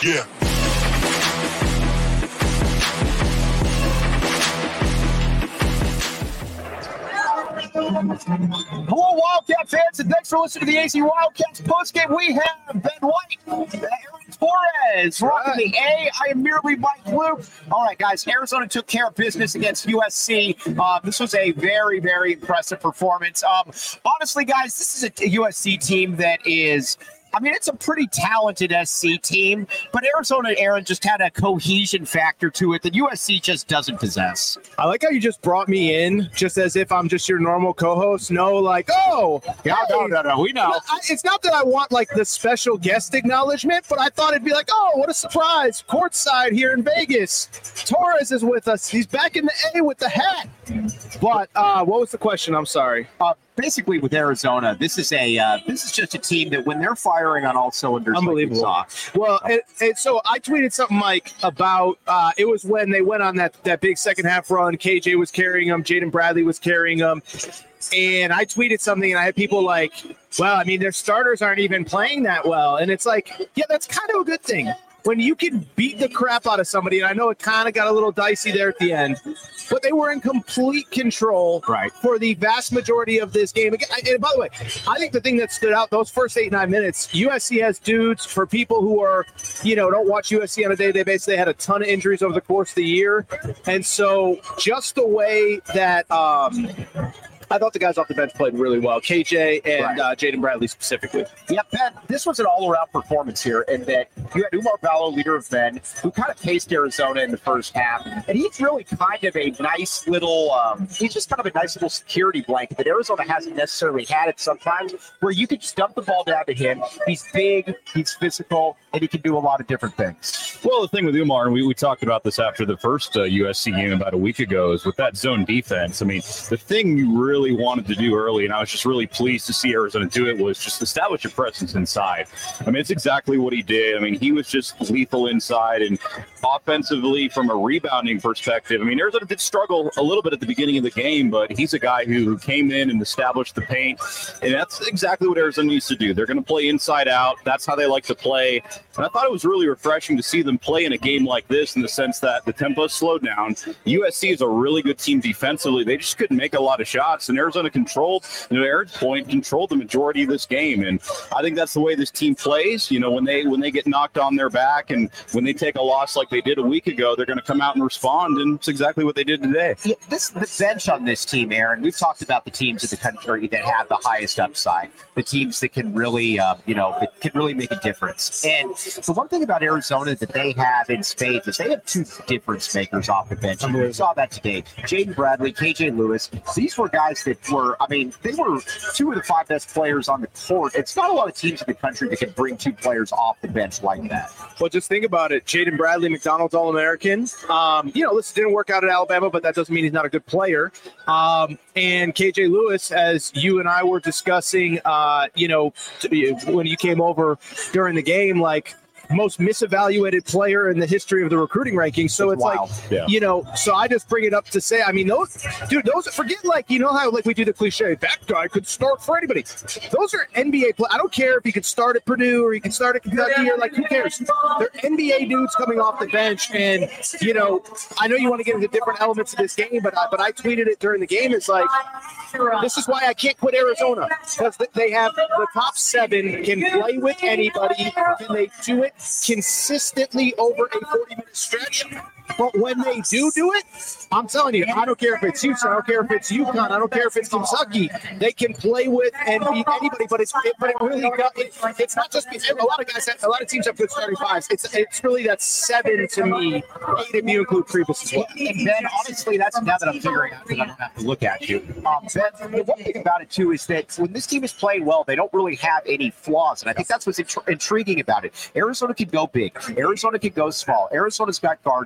Yeah. Hello, Wildcat fans, and thanks for listening to the AZ Wildcats postgame. We have Ben White, Aaron Torres, rocking the A. I am merely Mike Luke. All right, guys, Arizona took care of business against USC. This was a very, very impressive performance. Honestly, guys, this is a USC team that is... I mean, it's a pretty talented SC team, but Arizona, Aaron, just had a cohesion factor to it that USC just doesn't possess. I like how you just brought me in just as if I'm just your normal co-host. No, like, oh. No, we know. It's not that I want, like, the special guest acknowledgement, but I thought it'd be like, oh, what a surprise. Courtside here in Vegas. Torres is with us. He's back in the A with the hat. But what was the question? I'm sorry. Basically, with Arizona, this is just a team that when they're firing on all cylinders, unbelievable. Well, so I tweeted something, Mike, about it was when they went on that big second half run. KJ was carrying them, Jaden Bradley was carrying them, and I tweeted something, and I had people like, "Well, I mean, their starters aren't even playing that well," and it's like, yeah, that's kind of a good thing. When you can beat the crap out of somebody, and I know it kind of got a little dicey there at the end, but they were in complete control for the vast majority of this game. And by the way, I think the thing that stood out those first 8-9 minutes, USC has dudes for people who are, don't watch USC on a day-to-day basis. They had a ton of injuries over the course of the year. And so just the way that I thought the guys off the bench played really well. KJ and Jaden Bradley specifically. Yeah, Ben, this was an all-around performance here in that you had Umar Ballo, leader of men, who kind of paced Arizona in the first half. And he's really kind of a nice little he's just kind of a nice little security blanket that Arizona hasn't necessarily had it sometimes, where you could just dump the ball down to him. He's big, he's physical, and he can do a lot of different things. Well, the thing with Umar, and we talked about this after the first USC game about a week ago, is with that zone defense. I mean, the thing you really wanted to do early, and I was just really pleased to see Arizona do it, was just establish a presence inside. I mean, it's exactly what he did. I mean, he was just lethal inside, and offensively, from a rebounding perspective, I mean, Arizona did struggle a little bit at the beginning of the game, but he's a guy who came in and established the paint, and that's exactly what Arizona needs to do. They're going to play inside out. That's how they like to play, and I thought it was really refreshing to see them play in a game like this in the sense that the tempo slowed down. USC is a really good team defensively. They just couldn't make a lot of shots, and Arizona controlled, to Aaron's point, controlled the majority of this game, and I think that's the way this team plays. When they get knocked on their back and when they take a loss like they did a week ago, they're going to come out and respond, and it's exactly what they did today. Yeah, the bench on this team, Aaron, we've talked about the teams in the country that have the highest upside, the teams that can really, that can really make a difference. And the one thing about Arizona that they have in spades is they have two difference makers off the bench. And we saw that today. Jaden Bradley, KJ Lewis, these were guys that were, they were two of the five best players on the court. It's not a lot of teams in the country that can bring two players off the bench like that. Well, just think about it. Jaden Bradley, McDonald's All-American. Listen, didn't work out at Alabama, but that doesn't mean he's not a good player. And KJ Lewis, as you and I were discussing, when you came over during the game, like, most misevaluated player in the history of the recruiting rankings. So it's wild. So I just bring it up to say, those, forget how we do the cliche, that guy could start for anybody. Those are NBA players. I don't care if he could start at Purdue or he could start at Kentucky or who cares? They're NBA dudes coming off the bench. And, I know you want to get into different elements of this game, but I tweeted it during the game. It's like, this is why I can't quit Arizona, because they have the top 7 can play with anybody. Can they do it consistently over a 40-minute stretch? But when they do it, I'm telling you, I don't care if it's Houston, I don't care if it's UConn, I don't care if it's Kentucky. They can play with and beat anybody. But it's not just a lot of teams have good starting fives. It's really that 7 to me, 8 if you include Kribus as well. And Ben, honestly, that's now that I'm figuring out because I don't have to look at you. Ben, the one thing about it too is that when this team is playing well, they don't really have any flaws, and I think that's what's intriguing about it. Arizona can go big. Arizona can go small. Arizona's got guard play.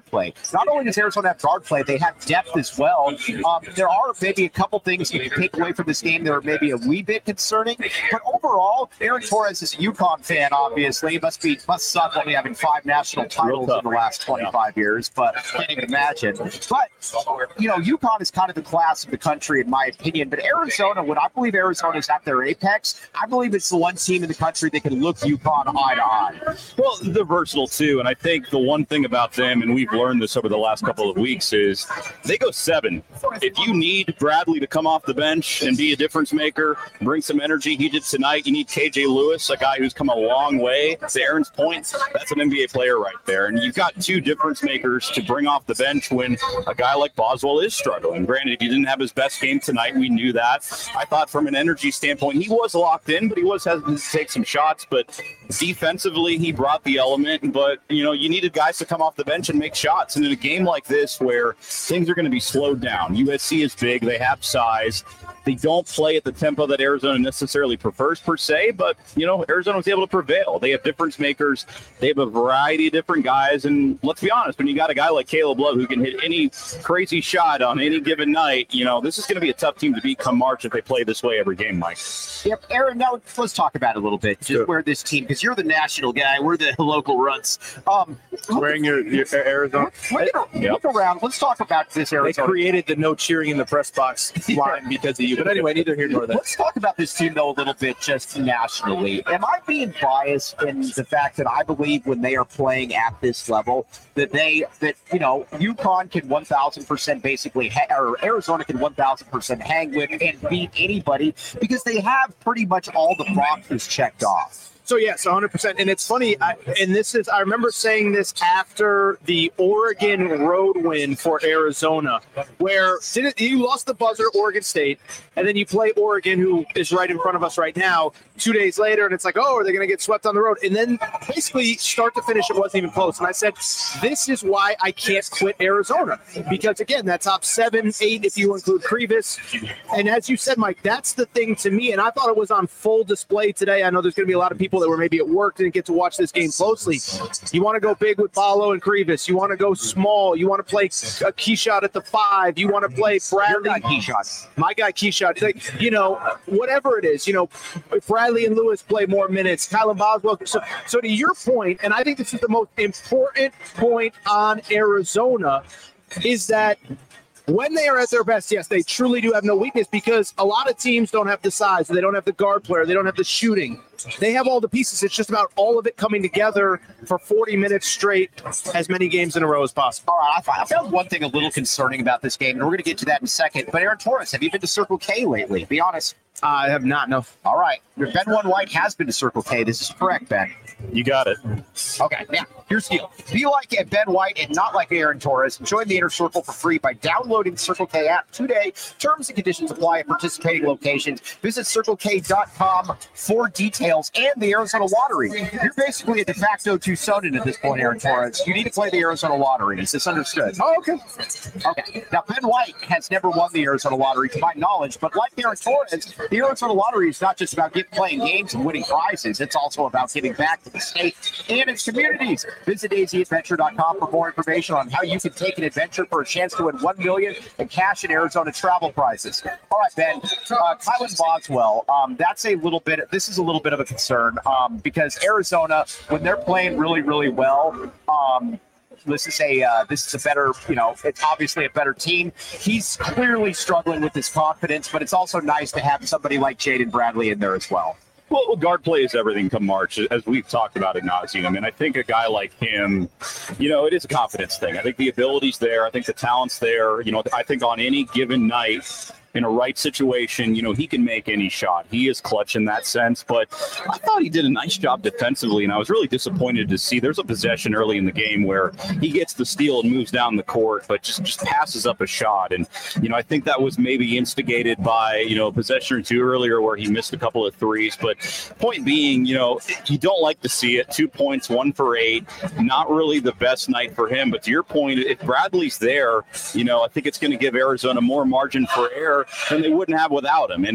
not only does Arizona have guard play, they have depth as well. There are maybe a couple things you can take away from this game that are maybe a wee bit concerning, but overall, Aaron Torres is a UConn fan, obviously. Must suck only having 5 national titles in the last 25 years, but I can't even imagine. But, UConn is kind of the class of the country, in my opinion. But Arizona, when I believe Arizona is at their apex, I believe it's the one team in the country that can look UConn eye to eye. Well, they're versatile, too. And I think the one thing about them, and we've learned this over the last couple of weeks, is they go 7. If you need Bradley to come off the bench and be a difference maker, bring some energy, he did tonight. You need KJ Lewis, a guy who's come a long way. To Aaron's point, that's an NBA player right there. And you've got 2 difference makers to bring off the bench when a guy like Boswell is struggling. Granted, he didn't have his best game tonight. We knew that. I thought from an energy standpoint, he was locked in, but he was hesitant to take some shots. But defensively, he brought the element. But, you needed guys to come off the bench and make shots. And in a game like this where things are going to be slowed down, USC is big. They have size. They don't play at the tempo that Arizona necessarily prefers per se, but, Arizona was able to prevail. They have difference makers. They have a variety of different guys. And let's be honest, when you got a guy like Caleb Love who can hit any crazy shot on any given night, this is going to be a tough team to beat come March if they play this way every game, Mike. Yep. Aaron, now let's talk about it a little bit. Just where this team, because you're the national guy, we're the local runs. Wearing your Arizona. Look around. Let's talk about this Arizona. They created the no cheering in the press box line because of you. But anyway, neither here nor there. Let's talk about this team, though, a little bit just nationally. Am I being biased in the fact that I believe when they are playing at this level that UConn can 1,000% basically, or Arizona can 1,000% hang with and beat anybody because they have pretty much all the boxes checked off? So, yes, 100%. And it's funny, I remember saying this after the Oregon road win for Arizona, where you lost the buzzer, Oregon State, and then you play Oregon, who is right in front of us right now, 2 days later, and it's like, oh, are they going to get swept on the road? And then basically start to finish, it wasn't even close. And I said, this is why I can't quit Arizona. Because, again, that top 7, 8, if you include Krivas. And as you said, Mike, that's the thing to me. And I thought it was on full display today. I know there's going to be a lot of people that were maybe at work, didn't get to watch this game closely. You want to go big with Paolo and Krivas. You want to go small. You want to play a key shot at the 5. You want to play Bradley. Your guy, Keyshot. My guy, Keyshot. Like, whatever it is, Bradley and Lewis play more minutes. Kylan Boswell. So to your point, and I think this is the most important point on Arizona, is that when they are at their best, yes, they truly do have no weakness because a lot of teams don't have the size. They don't have the guard player. They don't have the shooting. They have all the pieces. It's just about all of it coming together for 40 minutes straight, as many games in a row as possible. All right, I found one thing a little concerning about this game, and we're going to get to that in a second. But Aaron Torres, have you been to Circle K lately? Be honest. I have not, no. All right. Ben One White has been to Circle K. This is correct, Ben. You got it. Okay, now, here's the deal. Be like Ben White and not like Aaron Torres. Join the Inner Circle for free by downloading the Circle K app today. Terms and conditions apply at participating locations. Visit CircleK.com for details and the Arizona Lottery. You're basically a de facto Tucsonan at this point, Aaron Torres. You need to play the Arizona Lottery. Is this understood? Oh, okay. Okay. Now, Ben White has never won the Arizona Lottery, to my knowledge, but like Aaron Torres, the Arizona Lottery is not just about playing games and winning prizes. It's also about giving back to the state and its communities. Visit azadventure.com for more information on how you can take an adventure for a chance to win $1 million in cash and Arizona travel prizes. All right, Ben. Kylan Boswell. This is a little bit of a concern because Arizona, when they're playing really, really well, this is a better, it's obviously a better team. He's clearly struggling with his confidence, but it's also nice to have somebody like Jaden Bradley in there as well. Well, guard play is everything come March, as we've talked about ad nauseum. And I think a guy like him, it is a confidence thing. I think the ability's there. I think the talent's there. I think on any given night, in a right situation, he can make any shot. He is clutch in that sense, but I thought he did a nice job defensively, and I was really disappointed to see there's a possession early in the game where he gets the steal and moves down the court, but just passes up a shot. And, I think that was maybe instigated by, a possession or two earlier where he missed a couple of threes. But point being, you don't like to see it. 2 points, 1 for 8, not really the best night for him. But to your point, if Bradley's there, I think it's going to give Arizona more margin for error than they wouldn't have without him. And look,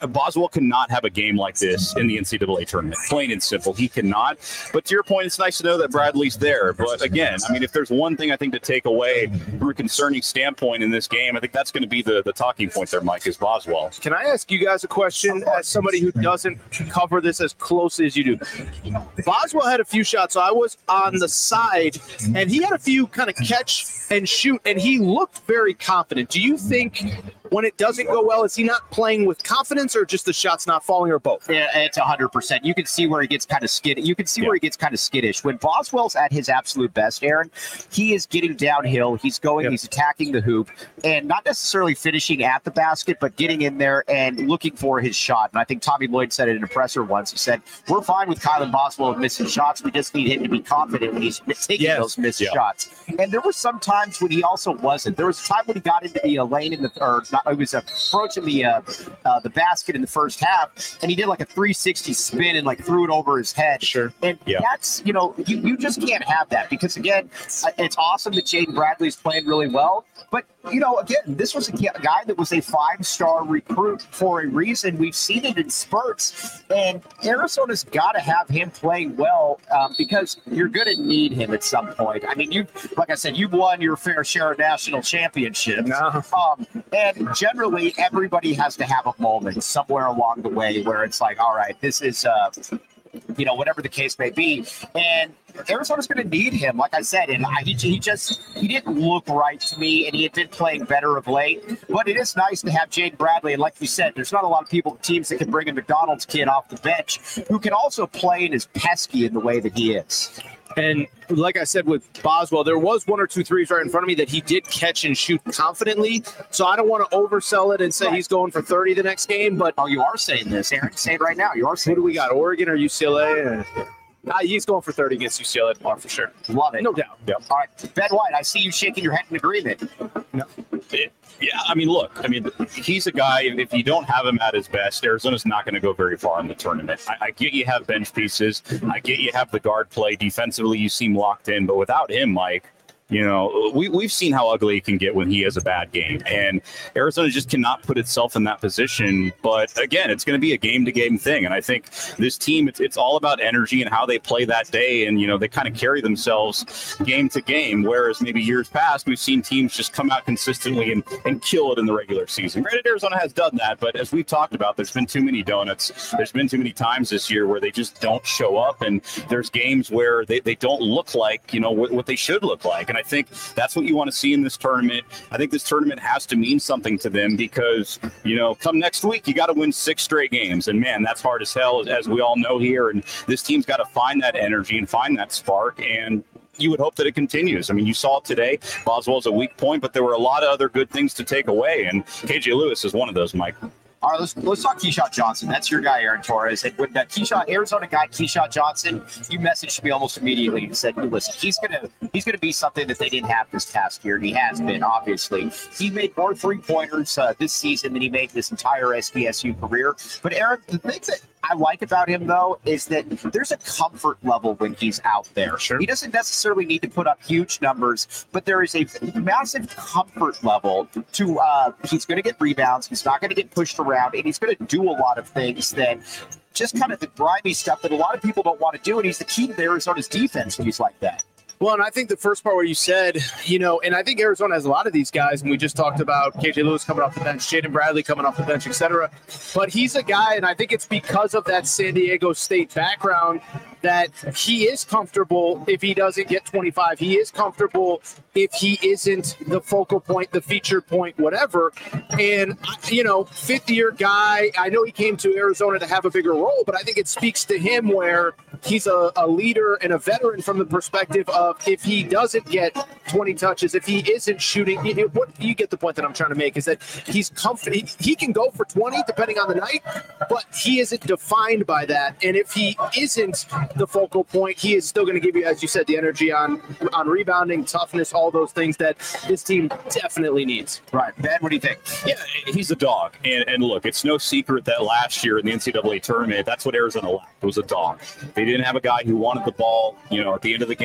Boswell cannot have a game like this in the NCAA tournament. Plain and simple. He cannot. But to your point, it's nice to know that Bradley's there. But again, I mean, if there's one thing I think to take away from a concerning standpoint in this game, I think that's going to be the talking point there, Mike, is Boswell. Can I ask you guys a question as somebody who doesn't cover this as closely as you do? Boswell had a few shots. So I was on the side, and he had a few kind of catch and shoot, and he looked very confident. Do you think when it doesn't go well, is he not playing with confidence or just the shots not falling or both? Yeah, it's 100%. You can see where he gets kind of skittish. You can see where he gets kind of skittish. When Boswell's at his absolute best, Aaron, he is getting downhill. He's going, he's attacking the hoop, and not necessarily finishing at the basket, but getting in there and looking for his shot. And I think Tommy Lloyd said it in a presser once. He said, we're fine with Kylan Boswell missing shots. We just need him to be confident when he's taking those missed shots. And there were some times when he also wasn't. There was a time when he got into the lane in the it was approaching the basket in the first half, and he did like a 360 spin and like threw it over his head. Sure. And that's, you just can't have that because, again, it's awesome that Jaden Bradley's playing really well. But, again, this was a guy that was a 5-star recruit for a reason. We've seen it in spurts, and Arizona's got to have him playing well because you're going to need him at some point. I mean, like I said, you've won your fair share of national championships. And generally, everybody has to have a moment somewhere along the way where it's like, all right, this is, whatever the case may be. And Arizona's going to need him, like I said, and he didn't look right to me, and he had been playing better of late. But it is nice to have Jaden Bradley, and like you said, there's not a lot of teams that can bring a McDonald's kid off the bench who can also play and is pesky in the way that he is. And like I said with Boswell, there was 1 or 2 threes right in front of me that he did catch and shoot confidently. So I don't want to oversell it and say he's going for 30 the next game. But you are saying this, Aaron. Say it right now. You are saying. Who do we got? Oregon or UCLA? He's going for 30 against UCLA tomorrow for sure. Love it. No doubt. Yep. All right, Ben White, I see you shaking your head in agreement. No. Yeah, I mean, look, he's a guy, if you don't have him at his best, Arizona's not going to go very far in the tournament. I get you have bench pieces. I get you have the guard play. Defensively, you seem locked in. But without him, Mike, we've seen how ugly it can get when he has a bad game. And Arizona just cannot put itself in that position. But, again, it's going to be a game-to-game thing. And I think this team, it's all about energy and how they play that day. And, they kind of carry themselves game to game, whereas maybe years past, we've seen teams just come out consistently and kill it in the regular season. Granted, Arizona has done that. But as we've talked about, there's been too many donuts. There's been too many times this year where they just don't show up. And there's games where they don't look like, what they should look like. And I think that's what you want to see in this tournament. I think this tournament has to mean something to them because, come next week, you got to win 6 straight games. And, man, that's hard as hell, as we all know here. And this team's got to find that energy and find that spark. And you would hope that it continues. I mean, you saw it today. Boswell's a weak point, but there were a lot of other good things to take away. And KJ Lewis is one of those, Mike. All right, let's talk Keyshawn Johnson. That's your guy, Aaron Torres. And when that Arizona guy, Keyshawn Johnson, you messaged me almost immediately and said, listen, he's gonna be something that they didn't have this past year. And he has been, obviously. He made more 3-pointers this season than he made this entire SBSU career. But Aaron, the thing that I like about him, though, is that there's a comfort level when he's out there. Sure. He doesn't necessarily need to put up huge numbers, but there is a massive comfort level to he's going to get rebounds. He's not going to get pushed around, and he's going to do a lot of things that just kind of the grimy stuff that a lot of people don't want to do, and he's the key to Arizona's defense when he's like that. Well, and I think the first part where you said, and I think Arizona has a lot of these guys, and we just talked about KJ Lewis coming off the bench, Jaden Bradley coming off the bench, etc. But he's a guy, and I think it's because of that San Diego State background that he is comfortable if he doesn't get 25. He is comfortable if he isn't the focal point, the feature point, whatever. And, fifth-year guy, I know he came to Arizona to have a bigger role, but I think it speaks to him where he's a leader and a veteran from the perspective of if he doesn't get 20 touches, if he isn't shooting, what you get the point that I'm trying to make is that he's comfortable. He can go for 20 depending on the night, but he isn't defined by that. And if he isn't the focal point, he is still going to give you, as you said, the energy on rebounding, toughness, all those things that this team definitely needs. Right. Ben, what do you think? Yeah, he's a dog. And look, it's no secret that last year in the NCAA tournament, that's what Arizona lacked. It was a dog. They didn't have a guy who wanted the ball, at the end of the game where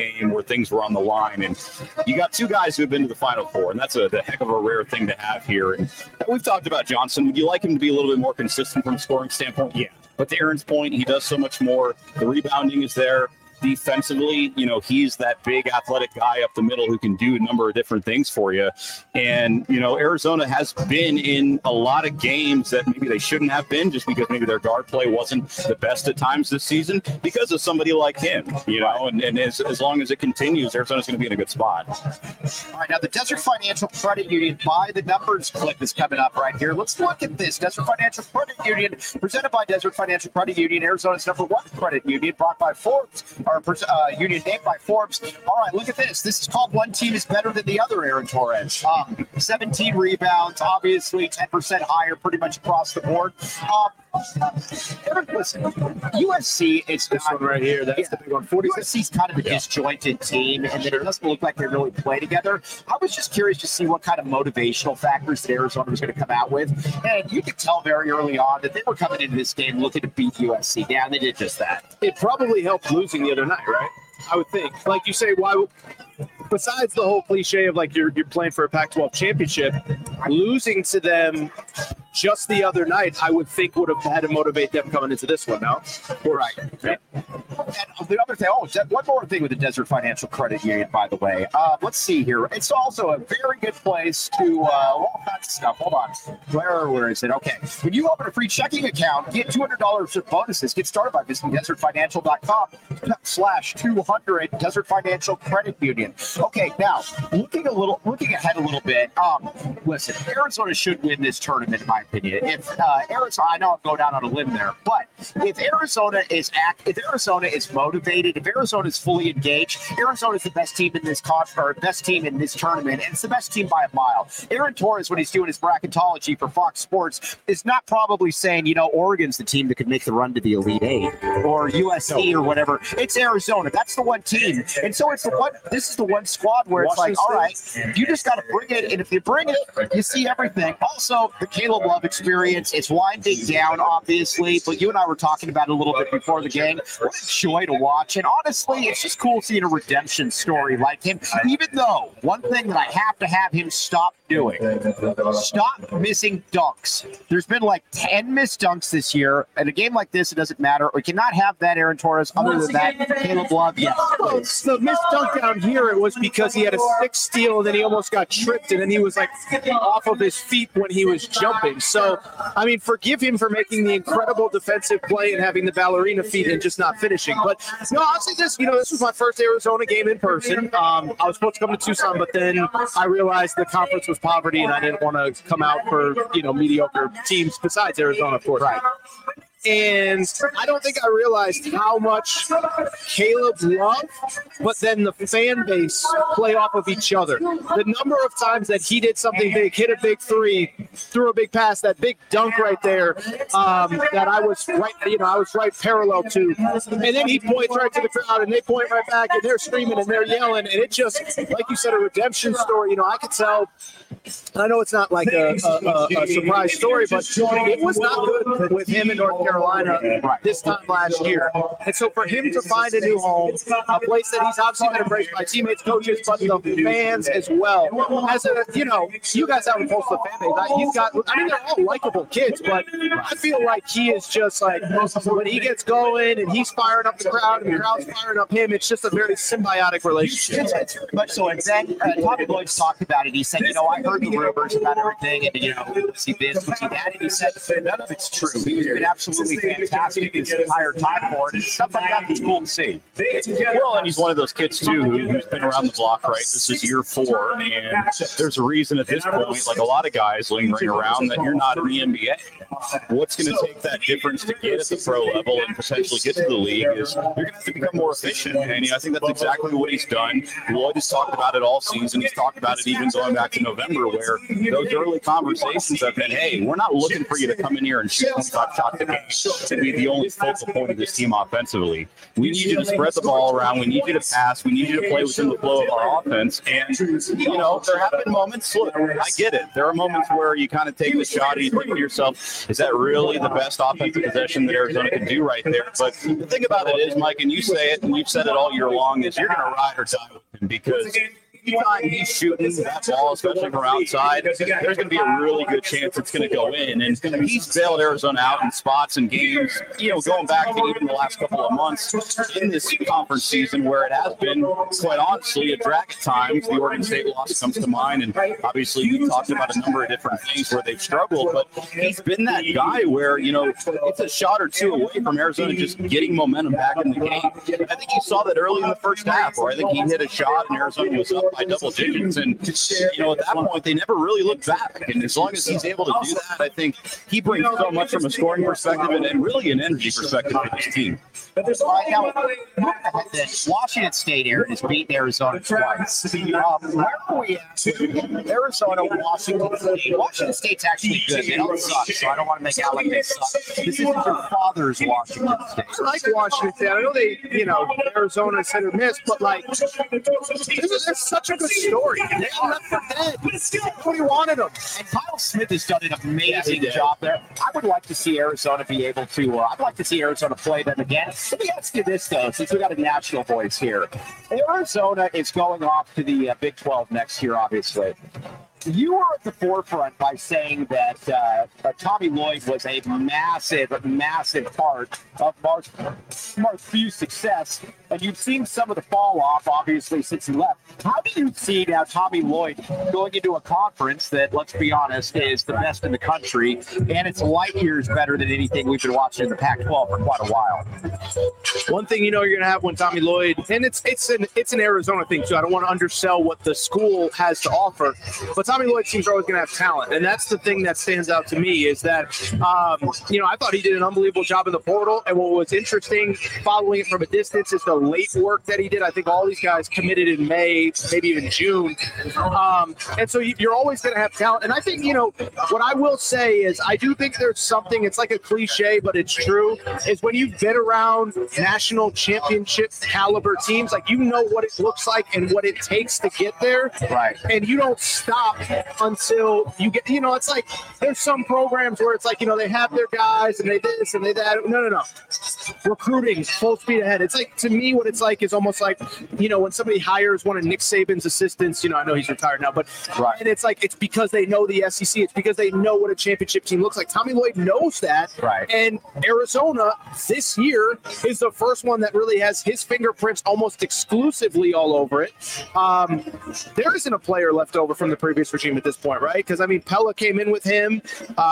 things were on the line. And you got two guys who have been to the Final Four, and that's the heck of a rare thing to have here. And we've talked about Johnson. Would you like him to be a little bit more consistent from a scoring standpoint? Yeah. But to Aaron's point, he does so much more. The rebounding is there. Defensively, he's that big athletic guy up the middle who can do a number of different things for you. And, Arizona has been in a lot of games that maybe they shouldn't have been just because maybe their guard play wasn't the best at times this season because of somebody like him, and as long as it continues, Arizona's going to be in a good spot. All right, now the Desert Financial Credit Union by the numbers clip is coming up right here. Let's look at this. Desert Financial Credit Union, presented by Desert Financial Credit Union, Arizona's #1 credit union, brought by Forbes. Union named by Forbes. All right, look at this. This is called One Team is Better Than the Other, Aaron Torres. 17 rebounds, obviously 10% higher pretty much across the board. Aaron, listen, USC is this one right here. That's the big one. USC's kind of a disjointed team, and then it doesn't look like they really play together. I was just curious to see what kind of motivational factors that Arizona was going to come out with. And you could tell very early on that they were coming into this game looking to beat USC. Yeah, they did just that. It probably helped losing the other night, right? I would think. Like you say, why? Besides the whole cliche of like you're playing for a Pac-12 championship, losing to them just the other night, I would think would have had to motivate them coming into this one. No, right. Yeah. And the other thing, one more thing with the Desert Financial Credit Union, by the way. Let's see here. It's also a very good place to all kinds of stuff. Hold on. Where is it? Okay. When you open a free checking account, get $200 of bonuses. Get started by visiting desertfinancial.com/200 Desert Financial Credit Union. Okay, now looking ahead a little bit. Listen, Arizona should win this tournament, in my opinion. If Arizona, I know I'm going down on a limb there, but if Arizona is motivated, if Arizona is fully engaged, Arizona is the best team in this best team in this tournament, and it's the best team by a mile. Aaron Torres, when he's doing his bracketology for Fox Sports, is not probably saying, Oregon's the team that could make the run to the Elite Eight or USC or whatever. It's Arizona. That's the one team, and so this is the one squad where it's like, all right, you just got to bring it, and if you bring it, you see everything. Also, the Caleb Love experience, it's winding down, obviously, but you and I were talking about it a little bit before the game. What a joy to watch, and honestly, it's just cool seeing a redemption story like him, even though one thing that I have to have him stop doing, stop missing dunks. There's been like 10 missed dunks this year. In a game like this, it doesn't matter. We cannot have that, Aaron Torres. Other than that, Caleb Love, yes. The missed dunk down here, it was because he had a 6 steal, and then he almost got tripped, and then he was like off of his feet when he was jumping. So, I mean, forgive him for making the incredible defensive play and having the ballerina feet and just not finishing. But no, I'll say this, this was my first Arizona game in person. I was supposed to come to Tucson, but then I realized the conference was poverty, and I didn't want to come out for, mediocre teams besides Arizona, of course. Right. And I don't think I realized how much Caleb loved, but then the fan base play off of each other. The number of times that he did something big, hit a big three, threw a big pass, that big dunk right there, that I was right parallel to. And then he points right to the crowd, and they point right back, and they're screaming and they're yelling. And it just, like you said, a redemption story. I could tell. I know it's not like a surprise story, but it was not good with him in North Carolina this time last year. And so for him to find a new home, a place that he's obviously been embraced by teammates, coaches, but the fans as well. As you guys have a pulse of fan base. They're all likable kids, but I feel like he is just like, when he gets going and he's firing up the crowd and the crowd's firing up him, it's just a very symbiotic relationship. It's very much so. And then Tommy Lloyd's talked about it. He said, I heard the rumors about everything, and we see this, we see that, and he said none of it's true. He's been absolutely fantastic this entire time for it, and stuff like that is cool to see. Well, and he's one of those kids too who's been around the block, right? This is year 4, and there's a reason at this point, like a lot of guys lingering around, that you're not in the NBA. What's going to take that difference to get at the pro level and potentially get to the league is you're going to have to become more efficient, and I think that's exactly what he's done. Lloyd has talked about it all season. He's talked about it even going back to November, where those early conversations have been, hey, we're not looking for you to come in here and shoot 25 shots a game. to be the only focal point of this team offensively. We need you to spread the ball around. We need you to pass. We need you to play within the flow of our offense. And, there have been moments. Look, I get it. There are moments where you kind of take the shot and you think to yourself, is that really the best offensive possession that Arizona can do right there? But the thing about it is, Mike, and you say it, and you've said it all year long, is you're going to ride or die with him because anytime he's shooting that ball, especially from outside, there's going to be a really good chance it's going to go in. And he's bailed Arizona out in spots and games, going back to even the last couple of months in this conference season where it has been, quite honestly, a drag at times. The Oregon State loss comes to mind, and obviously you talked about a number of different things where they've struggled, but he's been that guy where, it's a shot or two away from Arizona just getting momentum back in the game. I think you saw that early in the first half, where I think he hit a shot and Arizona was up by double digits, and at that point they never really looked back. And as long as he's able to do that, I think he brings so much from a scoring perspective and really an energy perspective for this team. Now, Washington State has beaten Arizona twice. Where are we at? Arizona, Washington State. Washington State's actually good. They don't suck, so I don't want to make out like they suck. This isn't your father's Washington State. I like Washington State. I know Arizona's hit or miss, but this is such a good story. They left for dead. Nobody wanted them. And Kyle Smith has done an amazing job there. I would like to see Arizona be able to, I'd like to see Arizona play them again. Let me ask you this, though, since we got a national voice here. Arizona is going off to the Big 12 next year, obviously. You were at the forefront by saying that Tommy Lloyd was a massive part of Mark's success, and you've seen some of the fall off, obviously, since he left. How do you see now Tommy Lloyd going into a conference that, let's be honest, is the best in the country, and it's light years better than anything we've been watching in the Pac-12 for quite a while? One thing you're going to have when Tommy Lloyd, and it's an Arizona thing too. I don't want to undersell what the school has to offer, but Tommy Lloyd seems always going to have talent, and that's the thing that stands out to me is that, I thought he did an unbelievable job in the portal, and what was interesting following it from a distance is the late work that he did. I think all these guys committed in May, maybe even June, and so you're always going to have talent, and I think, what I will say is I do think there's something, it's like a cliche, but it's true, is when you've been around national championship caliber teams, what it looks like and what it takes to get there, right? And you don't stop until you get, it's like there's some programs where it's like, they have their guys and they this and they that. No. Recruiting full speed ahead. It's like, to me, what it's like is almost like, when somebody hires one of Nick Saban's assistants, I know he's retired now, but right. And it's like, it's because they know the SEC. It's because they know what a championship team looks like. Tommy Lloyd knows that. Right. And Arizona this year is the first one that really has his fingerprints almost exclusively all over it. There isn't a player left over from the previous regime at this point, right? Because, Pella came in with him.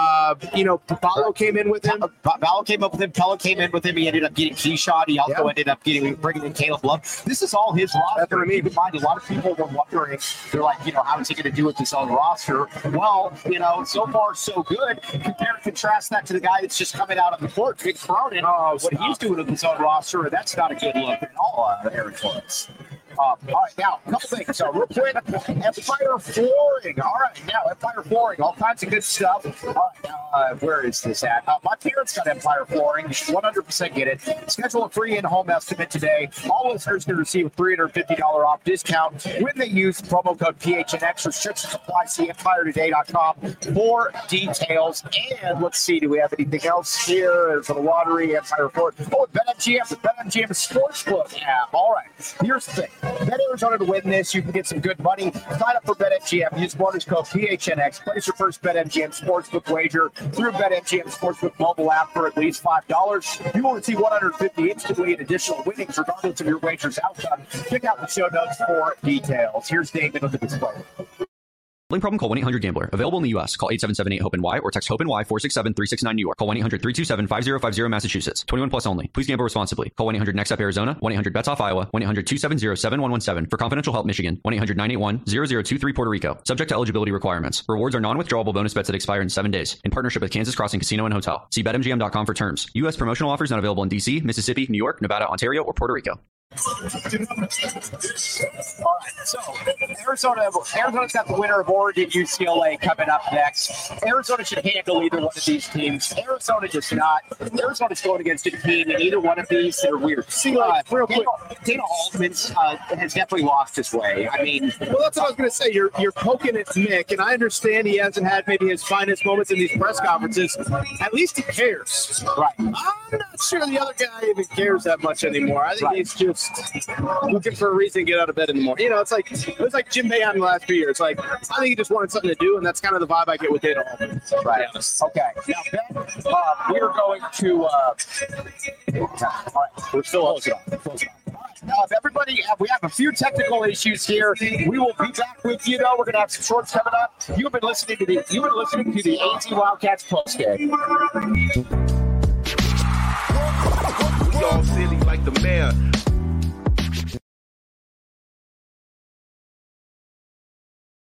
Ballo came in with him. Ballo came up with him. Pella came in with him. He ended up getting Keyshot. He also ended up bringing in Caleb Love. This is all his roster. Keep in mind, a lot of people were wondering, they're like, how is he going to do with his own roster? Well, so far, so good. Compare and contrast that to the guy that's just coming out of the court, Vic Cronin. What he's doing with his own roster, that's not a good look at all, Aaron Torres. All right, now, a couple things. Real quick, Empire Flooring. All right, now, Empire Flooring, all kinds of good stuff. All right, now, where is this at? My parents got Empire Flooring. 100% get it. Schedule a free in-home estimate today. All listeners can receive a $350 off discount when they use promo code PHNX. Restrictions apply. See EmpireToday.com for details. And let's see, do we have anything else here for the lottery? Empire Flooring. Oh, BetMGM, the BetMGM Sportsbook app. All right, here's the thing. Bet Arizona to win this. You can get some good money. Sign up for BetMGM. Use bonus code PHNX. Place your first BetMGM Sportsbook wager through BetMGM Sportsbook mobile app for at least $5. You will receive $150 instantly in additional winnings regardless of your wager's outcome. Check out the show notes for details. Here's David with the display. Gambling problem? Call 1-800-GAMBLER. Available in the U.S. Call 877-8-HOPE-NY or text HOPE-NY 467-369 New York. Call 1-800-327-5050 Massachusetts. 21 plus only. Please gamble responsibly. Call 1-800-NEXT-UP Arizona. 1-800-BETS-OFF Iowa. 1-800-270-7117 for confidential help Michigan. 1-800-981-0023 Puerto Rico. Subject to eligibility requirements. Rewards are non-withdrawable bonus bets that expire in 7 days. In partnership with Kansas Crossing Casino and Hotel. See BetMGM.com for terms. U.S. promotional offers not available in D.C., Mississippi, New York, Nevada, Ontario, or Puerto Rico. All right, so Arizona's got the winner of Oregon UCLA coming up next. Arizona should handle either one of these teams. Arizona does not. Arizona's going against a team in either one of these that are weird. Real quick. Dana Altman has definitely lost his way. I mean, well, that's what I was going to say. You're poking at Nick, and I understand he hasn't had maybe his finest moments in these press conferences. At least he cares. Right. I'm not sure the other guy even cares that much anymore. I think he's just looking for a reason to get out of bed in the morning. You know, it was like Jim Boeheim the last few years. Like, I think he just wanted something to do, and that's kind of the vibe I get with Dana Altman. Right. Okay. Now, Ben, we're going to. All right. We're still on. Everybody, we have a few technical issues here. We will be back with you, though. We're going to have some shorts coming up. You've been listening to the AZ Wildcats postgame. We all silly like the mayor.